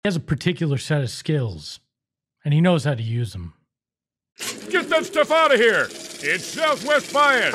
He has a particular set of skills, and he knows how to use them. Get that stuff out of here! It's Southwest Bias!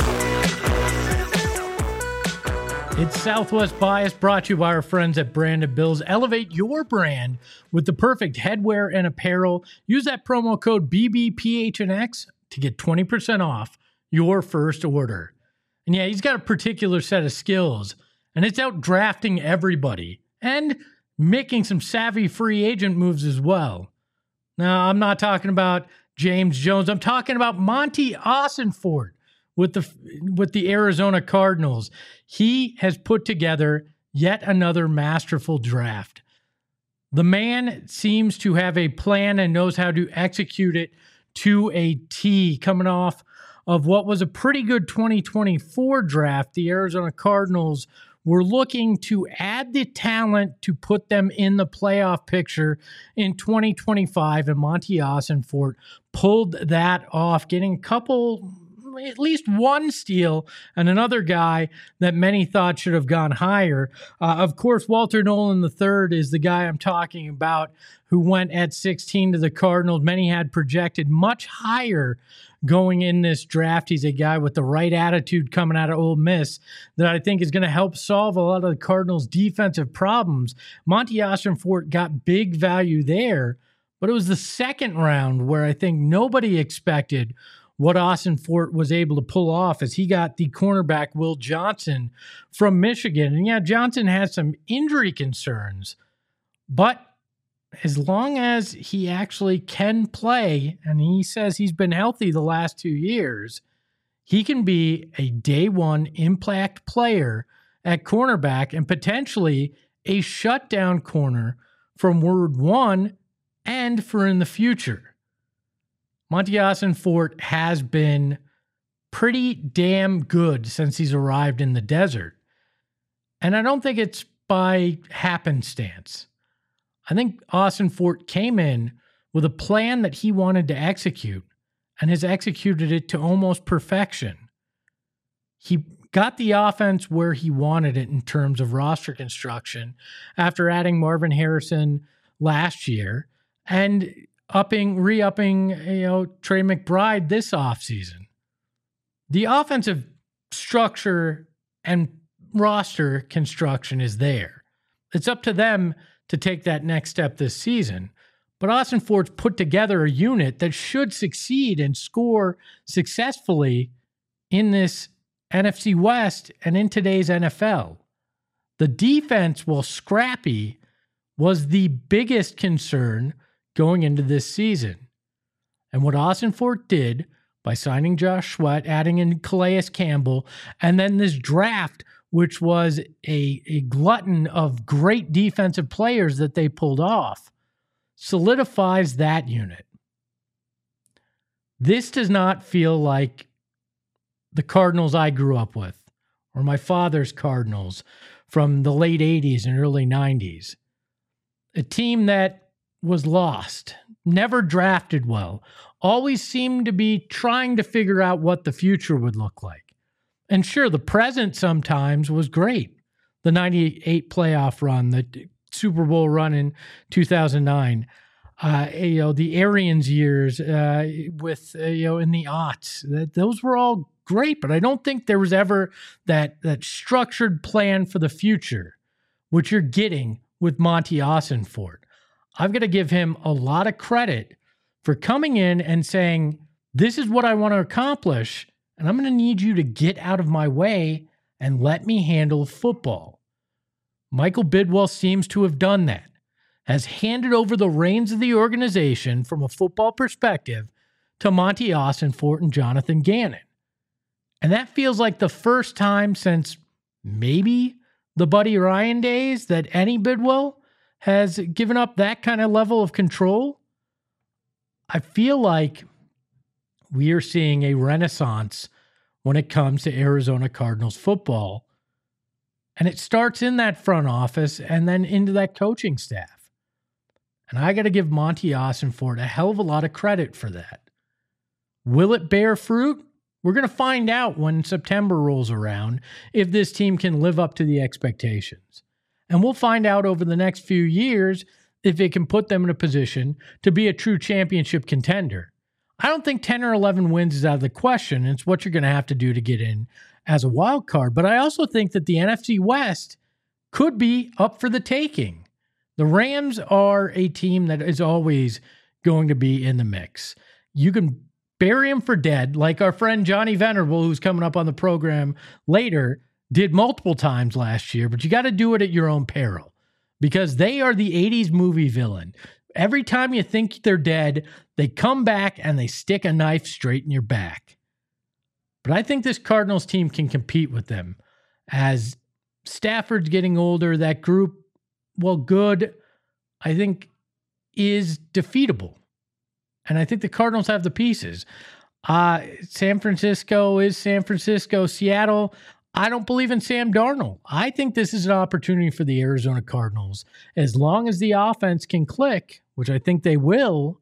It's Southwest Bias, brought to you by our friends at Branded Bills. Elevate your brand with the perfect headwear and apparel. Use that promo code BBPHNX to get 20% off your first order. And yeah, he's got a particular set of skills, and it's out drafting everybody and making some savvy free agent moves as well. Now, I'm not talking about James Jones. I'm talking about Monty Ossenfort with the Arizona Cardinals. He has put together yet another masterful draft. The man seems to have a plan and knows how to execute it to a T. Coming off of what was a pretty good 2024 draft, the Arizona Cardinals were looking to add the talent to put them in the playoff picture in 2025, and Monty Ossenfort pulled that off, getting a couple, at least one steal, and another guy that many thought should have gone higher. Of course, Walter Nolan III is the guy I'm talking about, who went at 16 to the Cardinals. Many had projected much higher going in this draft. He's a guy with the right attitude coming out of Ole Miss that I think is going to help solve a lot of the Cardinals' defensive problems. Monty Ossenfort got big value there, but it was the second round where I think nobody expected what Ossenfort was able to pull off, as he got the cornerback Will Johnson from Michigan. And yeah, Johnson has some injury concerns, but as long as he actually can play, and he says he's been healthy the last 2 years, he can be a day one impact player at cornerback and potentially a shutdown corner from word one and for in the future. Monty Ossenfort has been pretty damn good since he's arrived in the desert. And I don't think it's by happenstance. I think Ossenfort came in with a plan that he wanted to execute and has executed it to almost perfection. He got the offense where he wanted it in terms of roster construction after adding Marvin Harrison last year and re-upping, Trey McBride this offseason. The offensive structure and roster construction is there. It's up to them to take that next step this season. But Ossenfort's put together a unit that should succeed and score successfully in this NFC West and in today's NFL. The defense, while scrappy, was the biggest concern going into this season. And what Ossenfort did by signing Josh Sweat, adding in Calais Campbell, and then this draft, which was a glutton of great defensive players that they pulled off, solidifies that unit. This does not feel like the Cardinals I grew up with, or my father's Cardinals from the late 80s and early 90s. A team that was lost, never drafted well, always seemed to be trying to figure out what the future would look like. And sure, the present sometimes was great. The 98 playoff run, the Super Bowl run in 2009, the Arians years with in the aughts. Those were all great, but I don't think there was ever that structured plan for the future, which you're getting with Monty Ossenfort. I've got to give him a lot of credit for coming in and saying, this is what I want to accomplish, and I'm going to need you to get out of my way and let me handle football. Michael Bidwell seems to have done that, has handed over the reins of the organization from a football perspective to Monty Ossenfort and Jonathan Gannon. And that feels like the first time since maybe the Buddy Ryan days that any Bidwell has given up that kind of level of control. I feel like we are seeing a renaissance when it comes to Arizona Cardinals football. And it starts in that front office and then into that coaching staff. And I got to give Monty Ossenfort a hell of a lot of credit for that. Will it bear fruit? We're going to find out when September rolls around if this team can live up to the expectations. And we'll find out over the next few years if it can put them in a position to be a true championship contender. I don't think 10 or 11 wins is out of the question. It's what you're going to have to do to get in as a wild card. But I also think that the NFC West could be up for the taking. The Rams are a team that is always going to be in the mix. You can bury them for dead, like our friend Johnny Venerable, who's coming up on the program later, did multiple times last year, but you got to do it at your own peril because they are the 80s movie villain. Every time you think they're dead, they come back and they stick a knife straight in your back. But I think this Cardinals team can compete with them. As Stafford's getting older, that group, well, good, I think, is defeatable. And I think the Cardinals have the pieces. San Francisco is San Francisco. Seattle, I don't believe in Sam Darnold. I think this is an opportunity for the Arizona Cardinals. As long as the offense can click, which I think they will,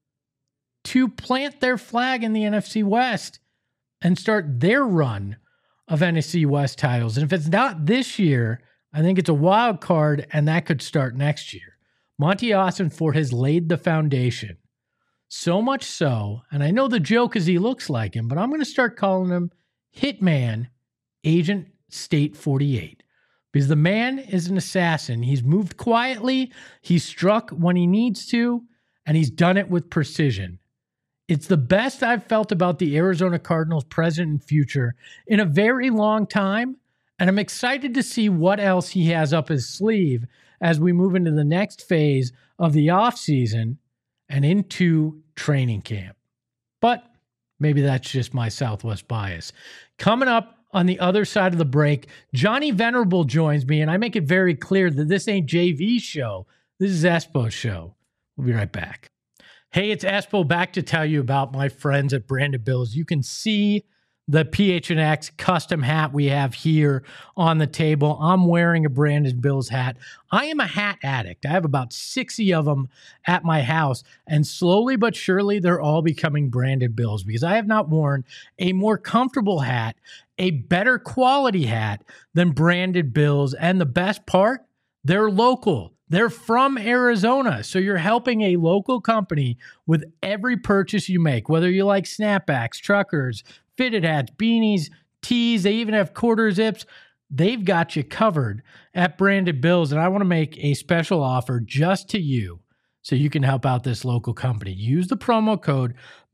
to plant their flag in the NFC West and start their run of NFC West titles. And if it's not this year, I think it's a wild card, and that could start next year. Monty Ossenfort has laid the foundation. So much so, and I know the joke is he looks like him, but I'm going to start calling him Hitman Agent State 48. Because the man is an assassin. He's moved quietly, he's struck when he needs to, and he's done it with precision. It's the best I've felt about the Arizona Cardinals present and future in a very long time, and I'm excited to see what else he has up his sleeve as we move into the next phase of the offseason and into training camp. But maybe that's just my Southwest bias. Coming up on the other side of the break, Johnny Venerable joins me, and I make it very clear that this ain't JV's show. This is Espo's show. We'll be right back. Hey, it's Espo back to tell you about my friends at Branded Bills. You can see the PHNX custom hat we have here on the table. I'm wearing a Branded Bills hat. I am a hat addict. I have about 60 of them at my house, and slowly but surely they're all becoming Branded Bills because I have not worn a more comfortable hat, a better quality hat than Branded Bills. And the best part, they're local. They're from Arizona, so you're helping a local company with every purchase you make, whether you like snapbacks, truckers, fitted hats, beanies, tees. They even have quarter zips. They've got you covered at Branded Bills, and I want to make a special offer just to you so you can help out this local company. Use the promo code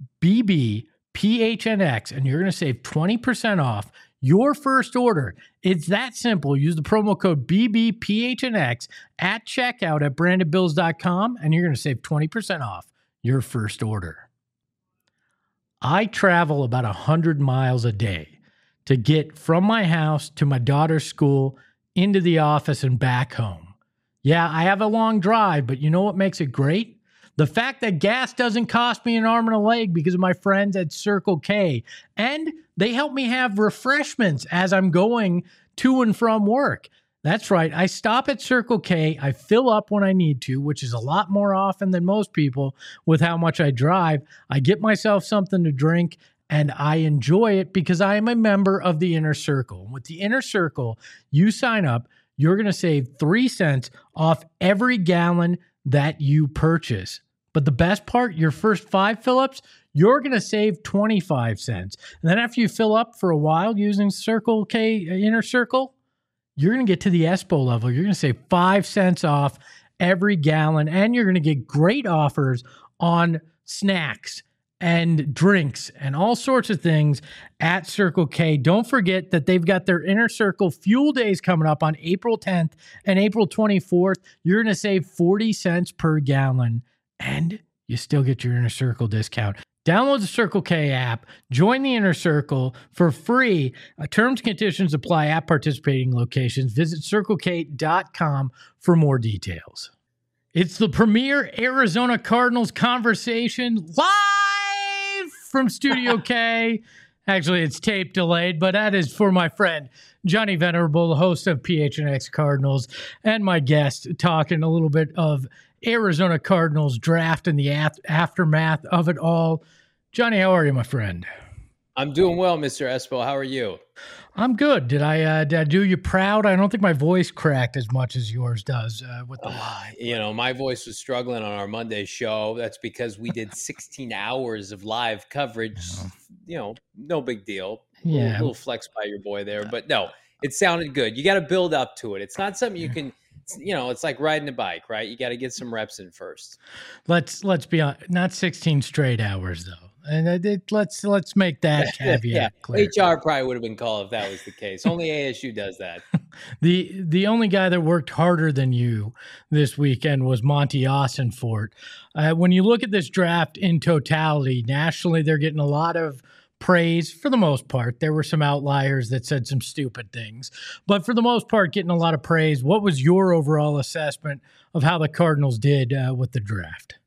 BBPHNX, and you're going to save 20% off your first order. It's that simple. Use the promo code BBPHNX at checkout at brandedbills.com, and you're going to save 20% off your first order. I travel about 100 miles a day to get from my house to my daughter's school, into the office, and back home. Yeah, I have a long drive, but you know what makes it great? The fact that gas doesn't cost me an arm and a leg because of my friends at Circle K. And they help me have refreshments as I'm going to and from work. That's right. I stop at Circle K. I fill up when I need to, which is a lot more often than most people with how much I drive. I get myself something to drink, and I enjoy it because I am a member of the Inner Circle. With the Inner Circle, you sign up, you're going to save 3 cents off every gallon that you purchase. But the best part, your first 5 fill-ups, you're going to save 25 cents. And then after you fill up for a while using Circle K Inner Circle, you're going to get to the Espo level. You're going to save 5 cents off every gallon, and you're going to get great offers on snacks and drinks and all sorts of things at Circle K. Don't forget that they've got their Inner Circle Fuel Days coming up on April 10th and April 24th. You're going to save 40 cents per gallon, and you still get your Inner Circle discount. Download the Circle K app, join the Inner Circle for free. Terms and conditions apply at participating locations. Visit CircleK.com for more details. It's the premier Arizona Cardinals conversation live from Studio K. Actually, it's tape delayed, but that is for my friend Johnny Venerable, the host of PHNX Cardinals, and my guest talking a little bit of Arizona Cardinals draft and the aftermath of it all. Johnny, how are you, my friend? I'm doing well, Mr. Espo. How are you? I'm good. Did I do you proud? I don't think my voice cracked as much as yours does with the My voice was struggling on our Monday show. That's because we did 16 hours of live coverage. No big deal. Little flex by your boy there, but no, it sounded good. You got to build up to it. It's not something you can. It's like riding a bike, right? You got to get some reps in first. Let's be honest, not 16 straight hours though. And let's make that caveat clear. HR probably would have been called if that was the case. Only ASU does that. The only guy that worked harder than you this weekend was Monty Ossenfort. When you look at this draft in totality, nationally, they're getting a lot of praise for the most part. There were some outliers that said some stupid things, but for the most part, getting a lot of praise. What was your overall assessment of how the Cardinals did with the draft?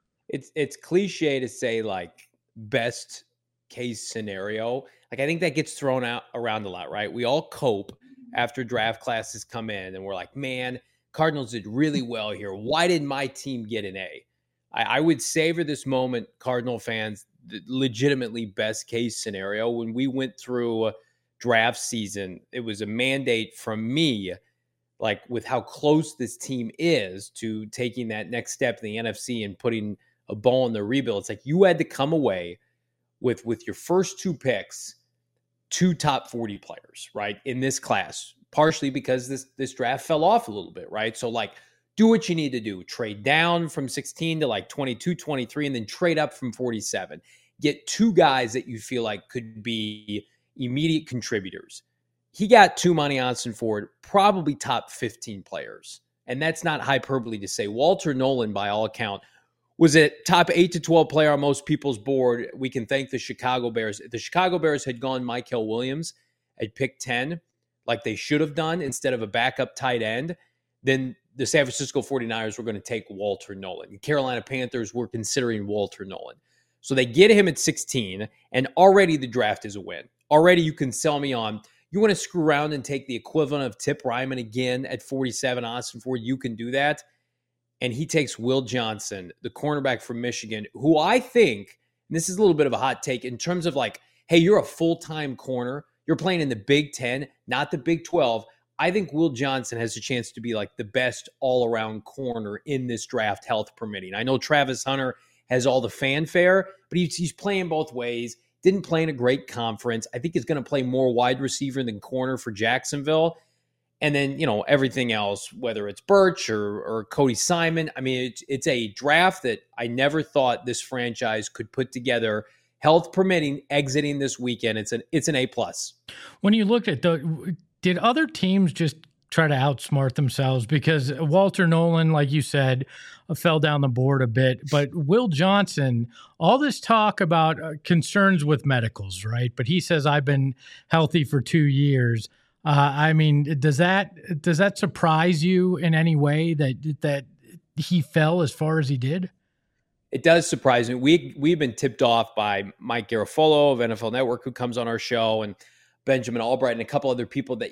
It's cliche to say like best case scenario. Like I think that gets thrown out around a lot, right? We all cope after draft classes come in and we're like, man, Cardinals did really well here. Why did my team get an A? I would savor this moment, Cardinal fans, the legitimately best case scenario. When we went through draft season, it was a mandate from me, like with how close this team is to taking that next step in the NFC and putting a ball in the rebuild. It's like you had to come away with your first two picks, two top 40 players, right, in this class, partially because this draft fell off a little bit, right? So like do what you need to do. Trade down from 16 to like 22, 23, and then trade up from 47. Get two guys that you feel like could be immediate contributors. He got two Monty Ossenfort, probably top 15 players. And that's not hyperbole to say. Walter Nolan, by all account, was a top 8 to 12 player on most people's board. We can thank the Chicago Bears. If the Chicago Bears had gone Mykel Williams at pick 10, like they should have done, instead of a backup tight end, then the San Francisco 49ers were going to take Walter Nolan. The Carolina Panthers were considering Walter Nolan. So they get him at 16, and already the draft is a win. Already you can sell me on, you want to screw around and take the equivalent of Tip Ryman again at 47, Ossenfort, you can do that. And he takes Will Johnson, the cornerback from Michigan, who I think, and this is a little bit of a hot take, in terms of like, hey, you're a full-time corner. You're playing in the Big 10, not the Big 12. I think Will Johnson has a chance to be like the best all-around corner in this draft, health permitting. I know Travis Hunter has all the fanfare, but he's playing both ways. Didn't play in a great conference. I think he's going to play more wide receiver than corner for Jacksonville. And then, everything else, whether it's Birch or Cody Simon. I mean, it's a draft that I never thought this franchise could put together, health permitting, exiting this weekend. It's an A+. When you look at did other teams just try to outsmart themselves? Because Walter Nolan, like you said, fell down the board a bit. But Will Johnson, all this talk about concerns with medicals, right? But he says, I've been healthy for 2 years. I mean, does that surprise you in any way that he fell as far as he did? It does surprise me. We've been tipped off by Mike Garafolo of NFL Network, who comes on our show, and Benjamin Albright and a couple other people, that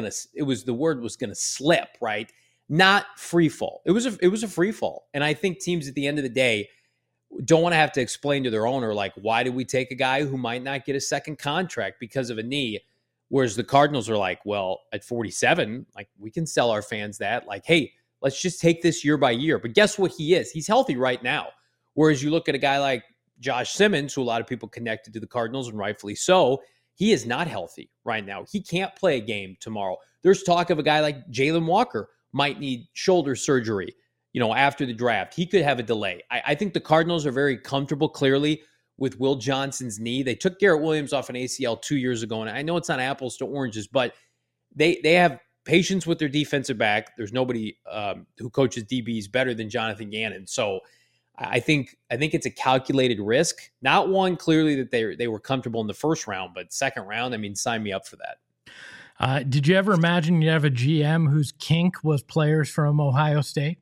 the word was gonna slip, right? Not free fall. It was a free fall. And I think teams at the end of the day don't want to have to explain to their owner, like, why did we take a guy who might not get a second contract because of a knee? Whereas the Cardinals are like, well, at 47, like, we can sell our fans that, like, hey, let's just take this year by year. But guess what he is? He's healthy right now. Whereas you look at a guy like Josh Simmons, who a lot of people connected to the Cardinals, and rightfully so, he is not healthy right now. He can't play a game tomorrow. There's talk of a guy like Jalen Walker might need shoulder surgery, after the draft. He could have a delay. I think the Cardinals are very comfortable, clearly, with Will Johnson's knee. They took Garrett Williams off an ACL 2 years ago, and I know it's not apples to oranges, but they have patience with their defensive back. There's nobody who coaches DBs better than Jonathan Gannon. So I think it's a calculated risk. Not one, clearly, that they were comfortable in the first round, but second round, I mean, sign me up for that. Did you ever imagine you'd have a GM whose kink was players from Ohio State?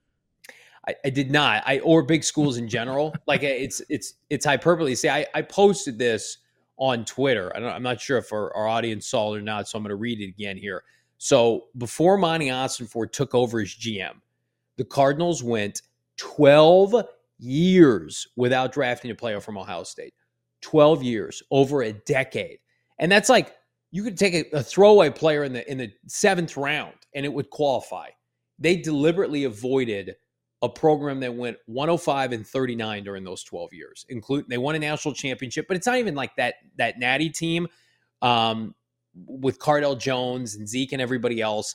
I did not. Or big schools in general. Like, it's hyperbole. See, I posted this on Twitter. I'm not sure if our audience saw it or not, so I'm going to read it again here. So before Monty Ossenfort took over as GM, the Cardinals went 12 years without drafting a player from Ohio State. 12 years, over a decade. And that's like, you could take a throwaway player in the 7th round and it would qualify. They deliberately avoided a program that went 105-39 during those 12 years. They won a national championship, but it's not even like that Natty team with Cardell Jones and Zeke and everybody else.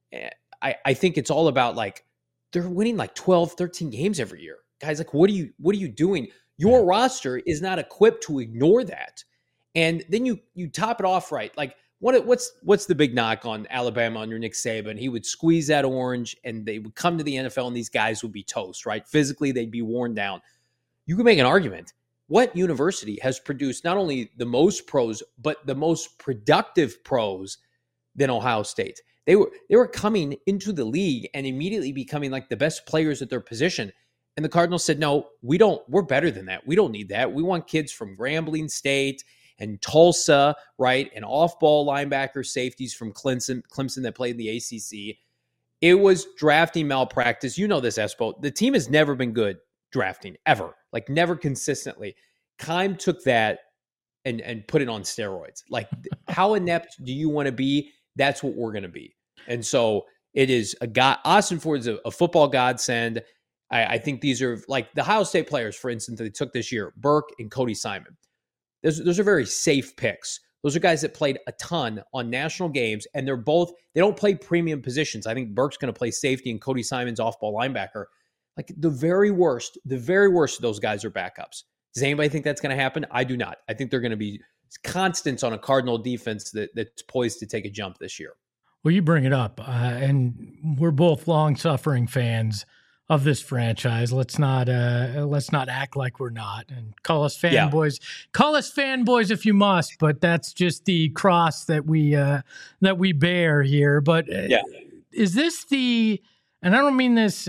I think it's all about like, they're winning like 12, 13 games every year. Guys, like, what are you doing? Your roster is not equipped to ignore that. And then you top it off right. Like, what's the big knock on Alabama under Nick Saban? He would squeeze that orange and they would come to the NFL and these guys would be toast, right? Physically, they'd be worn down. You could make an argument. What university has produced not only the most pros, but the most productive pros than Ohio State? They were coming into the league and immediately becoming like the best players at their position. And the Cardinals said, no, we're better than that. We don't need that. We want kids from Grambling State and Tulsa, right? And off-ball linebacker safeties from Clemson that played in the ACC. It was drafting malpractice. You know this, Espo. The team has never been good drafting, ever. Like, never consistently. Keim took that and put it on steroids. Like, how inept do you want to be? That's what we're going to be. And so it is Austin Ford's a football godsend. I think these are like the Ohio State players, for instance, that they took this year, Burke and Cody Simon. Those are very safe picks. Those are guys that played a ton on national games, and they don't play premium positions. I think Burke's going to play safety and Cody Simon's off-ball linebacker. Like, the very worst of those guys are backups. Does anybody think that's going to happen? I do not. I think they're going to be constants on a Cardinal defense that's poised to take a jump this year. Well, you bring it up, and we're both long-suffering fans of this franchise. Let's not act like we're not, and call us fanboys. Yeah. Call us fanboys if you must, but that's just the cross that we bear here. But is this and I don't mean this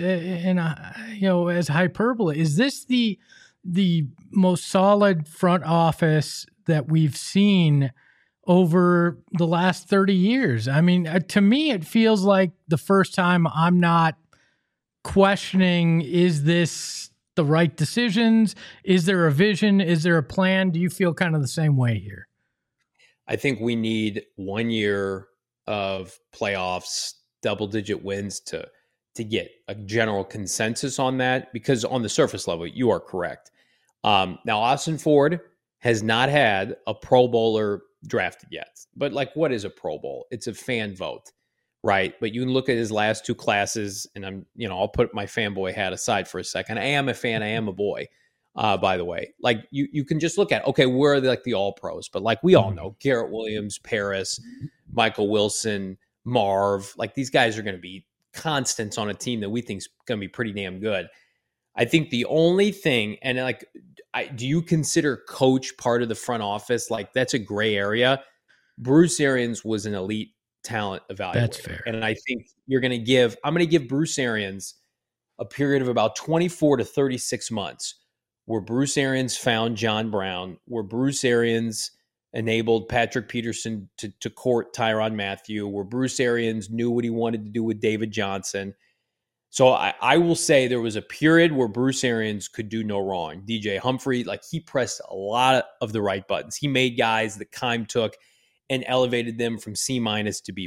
as hyperbole. Is this the most solid front office that we've seen over the last 30 years? I mean, to me, it feels like the first time I'm not questioning, is this the right decisions? Is there a vision? Is there a plan? Do you feel kind of the same way here? I think we need 1 year of playoffs, double-digit wins to get a general consensus on that, because on the surface level, you are correct. Now, Austin Ford has not had a Pro Bowler drafted yet. But like, what is a Pro Bowl? It's a fan vote, right? But you can look at his last 2 classes, and I'll put my fanboy hat aside for a second. I am a fan. I am a boy, by the way. Like, you can just look at, okay, where are like the all pros? But like, we all know Garrett Williams, Paris, Michael Wilson, Marv, like, these guys are going to be constants on a team that we think is going to be pretty damn good. I think the only thing, and like, do you consider coach part of the front office? Like, that's a gray area. Bruce Arians was an elite talent evaluator. That's fair. And I think I'm going to give Bruce Arians a period of about 24 to 36 months where Bruce Arians found John Brown, where Bruce Arians enabled Patrick Peterson to court Tyrann Mathieu, where Bruce Arians knew what he wanted to do with David Johnson. So I will say there was a period where Bruce Arians could do no wrong. DJ Humphrey, like, he pressed a lot of the right buttons. He made guys that Keim took and elevated them from C- to B+.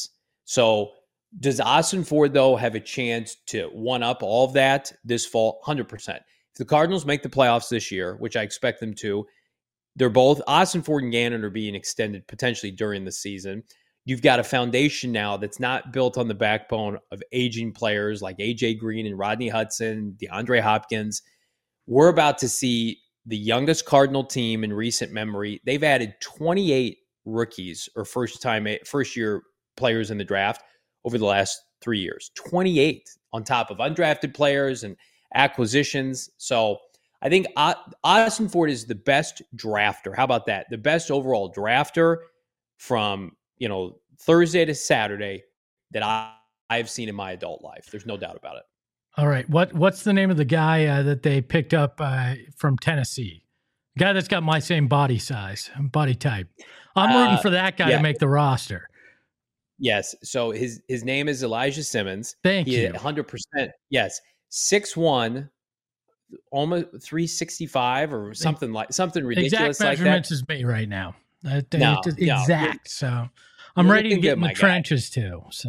So does Austin Ford, though, have a chance to one-up all of that this fall? 100%. If the Cardinals make the playoffs this year, which I expect them to, they're both, Austin Ford and Gannon are being extended potentially during the season. You've got a foundation now that's not built on the backbone of aging players like A.J. Green and Rodney Hudson, DeAndre Hopkins. We're about to see the youngest Cardinal team in recent memory. They've added 28 rookies or first-year players in the draft over the last 3 years. 28 on top of undrafted players and acquisitions. So I think Austin Ford is the best drafter. How about that? The best overall drafter from Thursday to Saturday that I've seen in my adult life. There's no doubt about it. All right. What's the name of the guy that they picked up from Tennessee? The guy that's got my same body type. I'm rooting for that guy to make the roster. Yes. So his name is Elijah Simmons. Thank you. 100%. Yes. 6'1", almost 365 or something ridiculous exact like that. Measurements is me right now. Exact. No, so I'm ready to get in the trenches too. So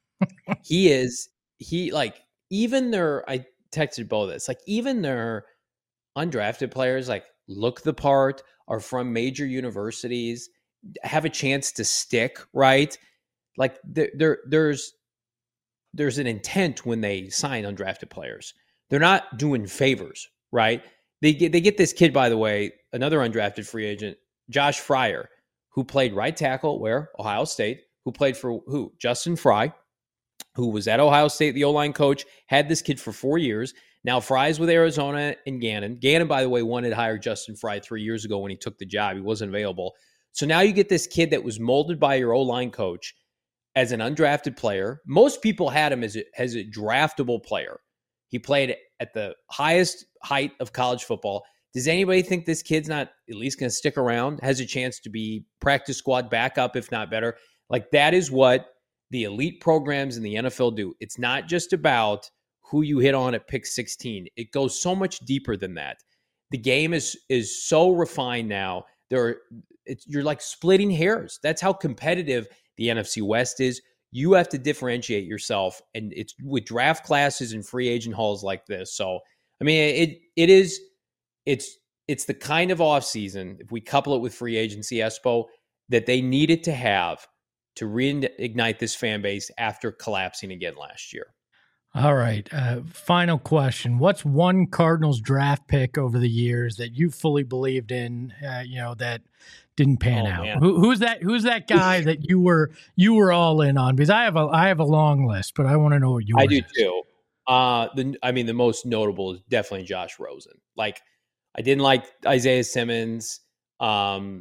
he like even their, I texted Bo this, like even their undrafted players like look the part, are from major universities, have a chance to stick, right? Like there's an intent when they sign undrafted players. They're not doing favors, right? They get this kid, by the way, another undrafted free agent, Josh Fryer, who played right tackle where? Ohio State, who played for who? Justin Fry, who was at Ohio State, the O-line coach, had this kid for 4 years. Now Fry's with Arizona and Gannon. Gannon, by the way, wanted to hire Justin Fry 3 years ago when he took the job. He wasn't available. So now you get this kid that was molded by your O-line coach as an undrafted player. Most people had him as a draftable player. He played at the highest height of college football. Does anybody think this kid's not at least going to stick around, has a chance to be practice squad backup, if not better? Like that is what the elite programs in the NFL do. It's not just about who you hit on at pick 16. It goes so much deeper than that. The game is so refined now. You're like splitting hairs. That's how competitive the NFC West is. You have to differentiate yourself, and it's with draft classes and free agent hauls like this. So, I mean, it's the kind of offseason, if we couple it with free agency, Espo, that they needed to have to reignite this fan base after collapsing again last year. All right. Final question. What's one Cardinals draft pick over the years that you fully believed in, that didn't pan out? Man. Who's that guy that you were all in on? Because I have a long list, but I want to know what yours is. I do too. The most notable is definitely Josh Rosen. Like, I didn't like Isaiah Simmons. Man,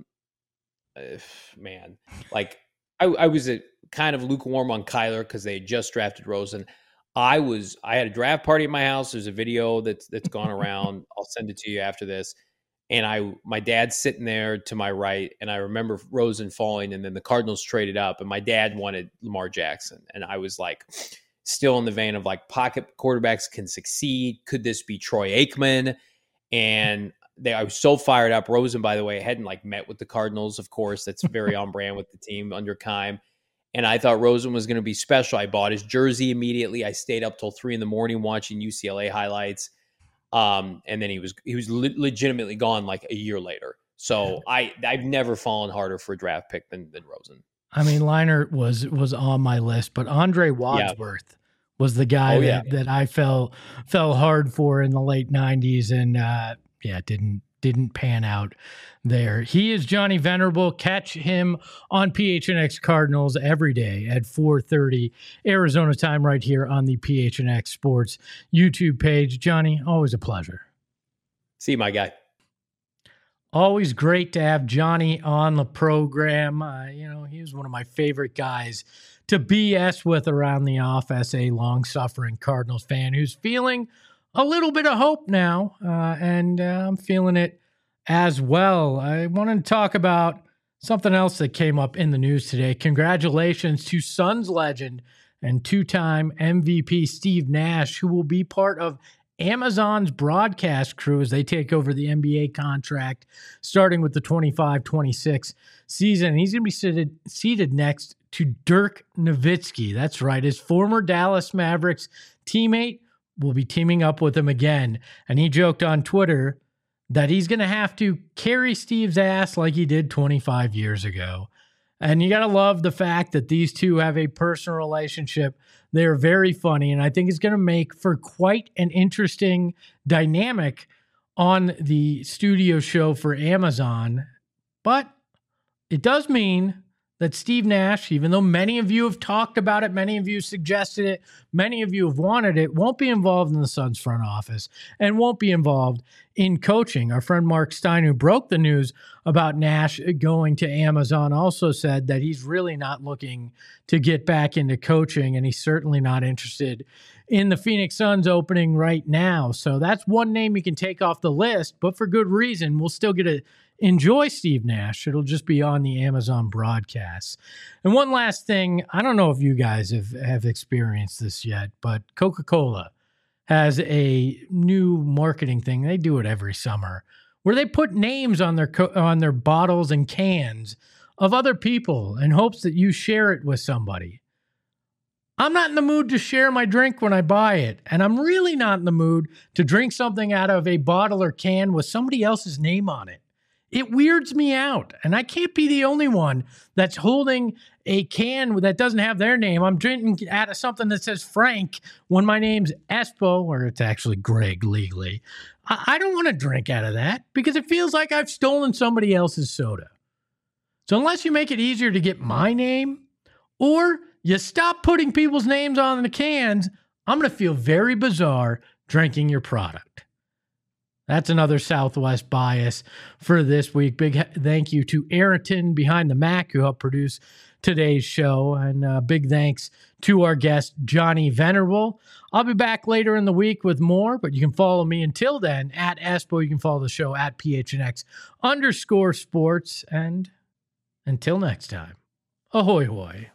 like I was kind of lukewarm on Kyler because they had just drafted Rosen. I had a draft party at my house. There's a video that's gone around. I'll send it to you after this. And my dad's sitting there to my right, and I remember Rosen falling, and then the Cardinals traded up, and my dad wanted Lamar Jackson. And I was like, still in the vein of like pocket quarterbacks can succeed. Could this be Troy Aikman? And I was so fired up. Rosen, by the way, hadn't like met with the Cardinals, of course. That's very on brand with the team under Keim. And I thought Rosen was going to be special. I bought his jersey immediately. I stayed up till 3 a.m. watching UCLA highlights. And then he was legitimately gone like a year later. So I've never fallen harder for a draft pick than Rosen. I mean, Leinart was on my list, but Andre Wadsworth was the guy that I fell hard for in the late 90s, and didn't pan out there. He is Johnny Venerable. Catch him on PHNX Cardinals every day at 4:30 Arizona time right here on the PHNX Sports YouTube page. Johnny, always a pleasure. See you, my guy. Always great to have Johnny on the program. He was one of my favorite guys to BS with around the office, a long-suffering Cardinals fan who's feeling a little bit of hope now, and I'm feeling it as well. I wanted to talk about something else that came up in the news today. Congratulations to Suns legend and two-time MVP Steve Nash, who will be part of Amazon's broadcast crew as they take over the NBA contract starting with the 25-26 season. He's going to be seated next to Dirk Nowitzki. That's right. His former Dallas Mavericks teammate will be teaming up with him again. And he joked on Twitter that he's going to have to carry Steve's ass like he did 25 years ago. And you got to love the fact that these two have a personal relationship. They're very funny, and I think it's going to make for quite an interesting dynamic on the studio show for Amazon. But it does mean that Steve Nash, even though many of you have talked about it, many of you suggested it, many of you have wanted it, won't be involved in the Suns front office and won't be involved in coaching. Our friend Mark Stein, who broke the news about Nash going to Amazon, also said that he's really not looking to get back into coaching, and he's certainly not interested in the Phoenix Suns opening right now. So that's one name you can take off the list, but for good reason. We'll still get to enjoy Steve Nash. It'll just be on the Amazon broadcasts. And one last thing, I don't know if you guys have experienced this yet, but Coca-Cola has a new marketing thing. They do it every summer where they put names on their bottles and cans of other people in hopes that you share it with somebody. I'm not in the mood to share my drink when I buy it, and I'm really not in the mood to drink something out of a bottle or can with somebody else's name on it. It weirds me out, and I can't be the only one that's holding a can that doesn't have their name. I'm drinking out of something that says Frank when my name's Espo, or it's actually Greg legally. I don't want to drink out of that because it feels like I've stolen somebody else's soda. So unless you make it easier to get my name, or you stop putting people's names on the cans, I'm going to feel very bizarre drinking your product. That's another Southwest bias for this week. Big thank you to Ayrton behind the Mac who helped produce today's show. And big thanks to our guest, Johnny Venerable. I'll be back later in the week with more, but you can follow me until then at Espo. You can follow the show at PHNX_sports. And until next time, ahoy hoy.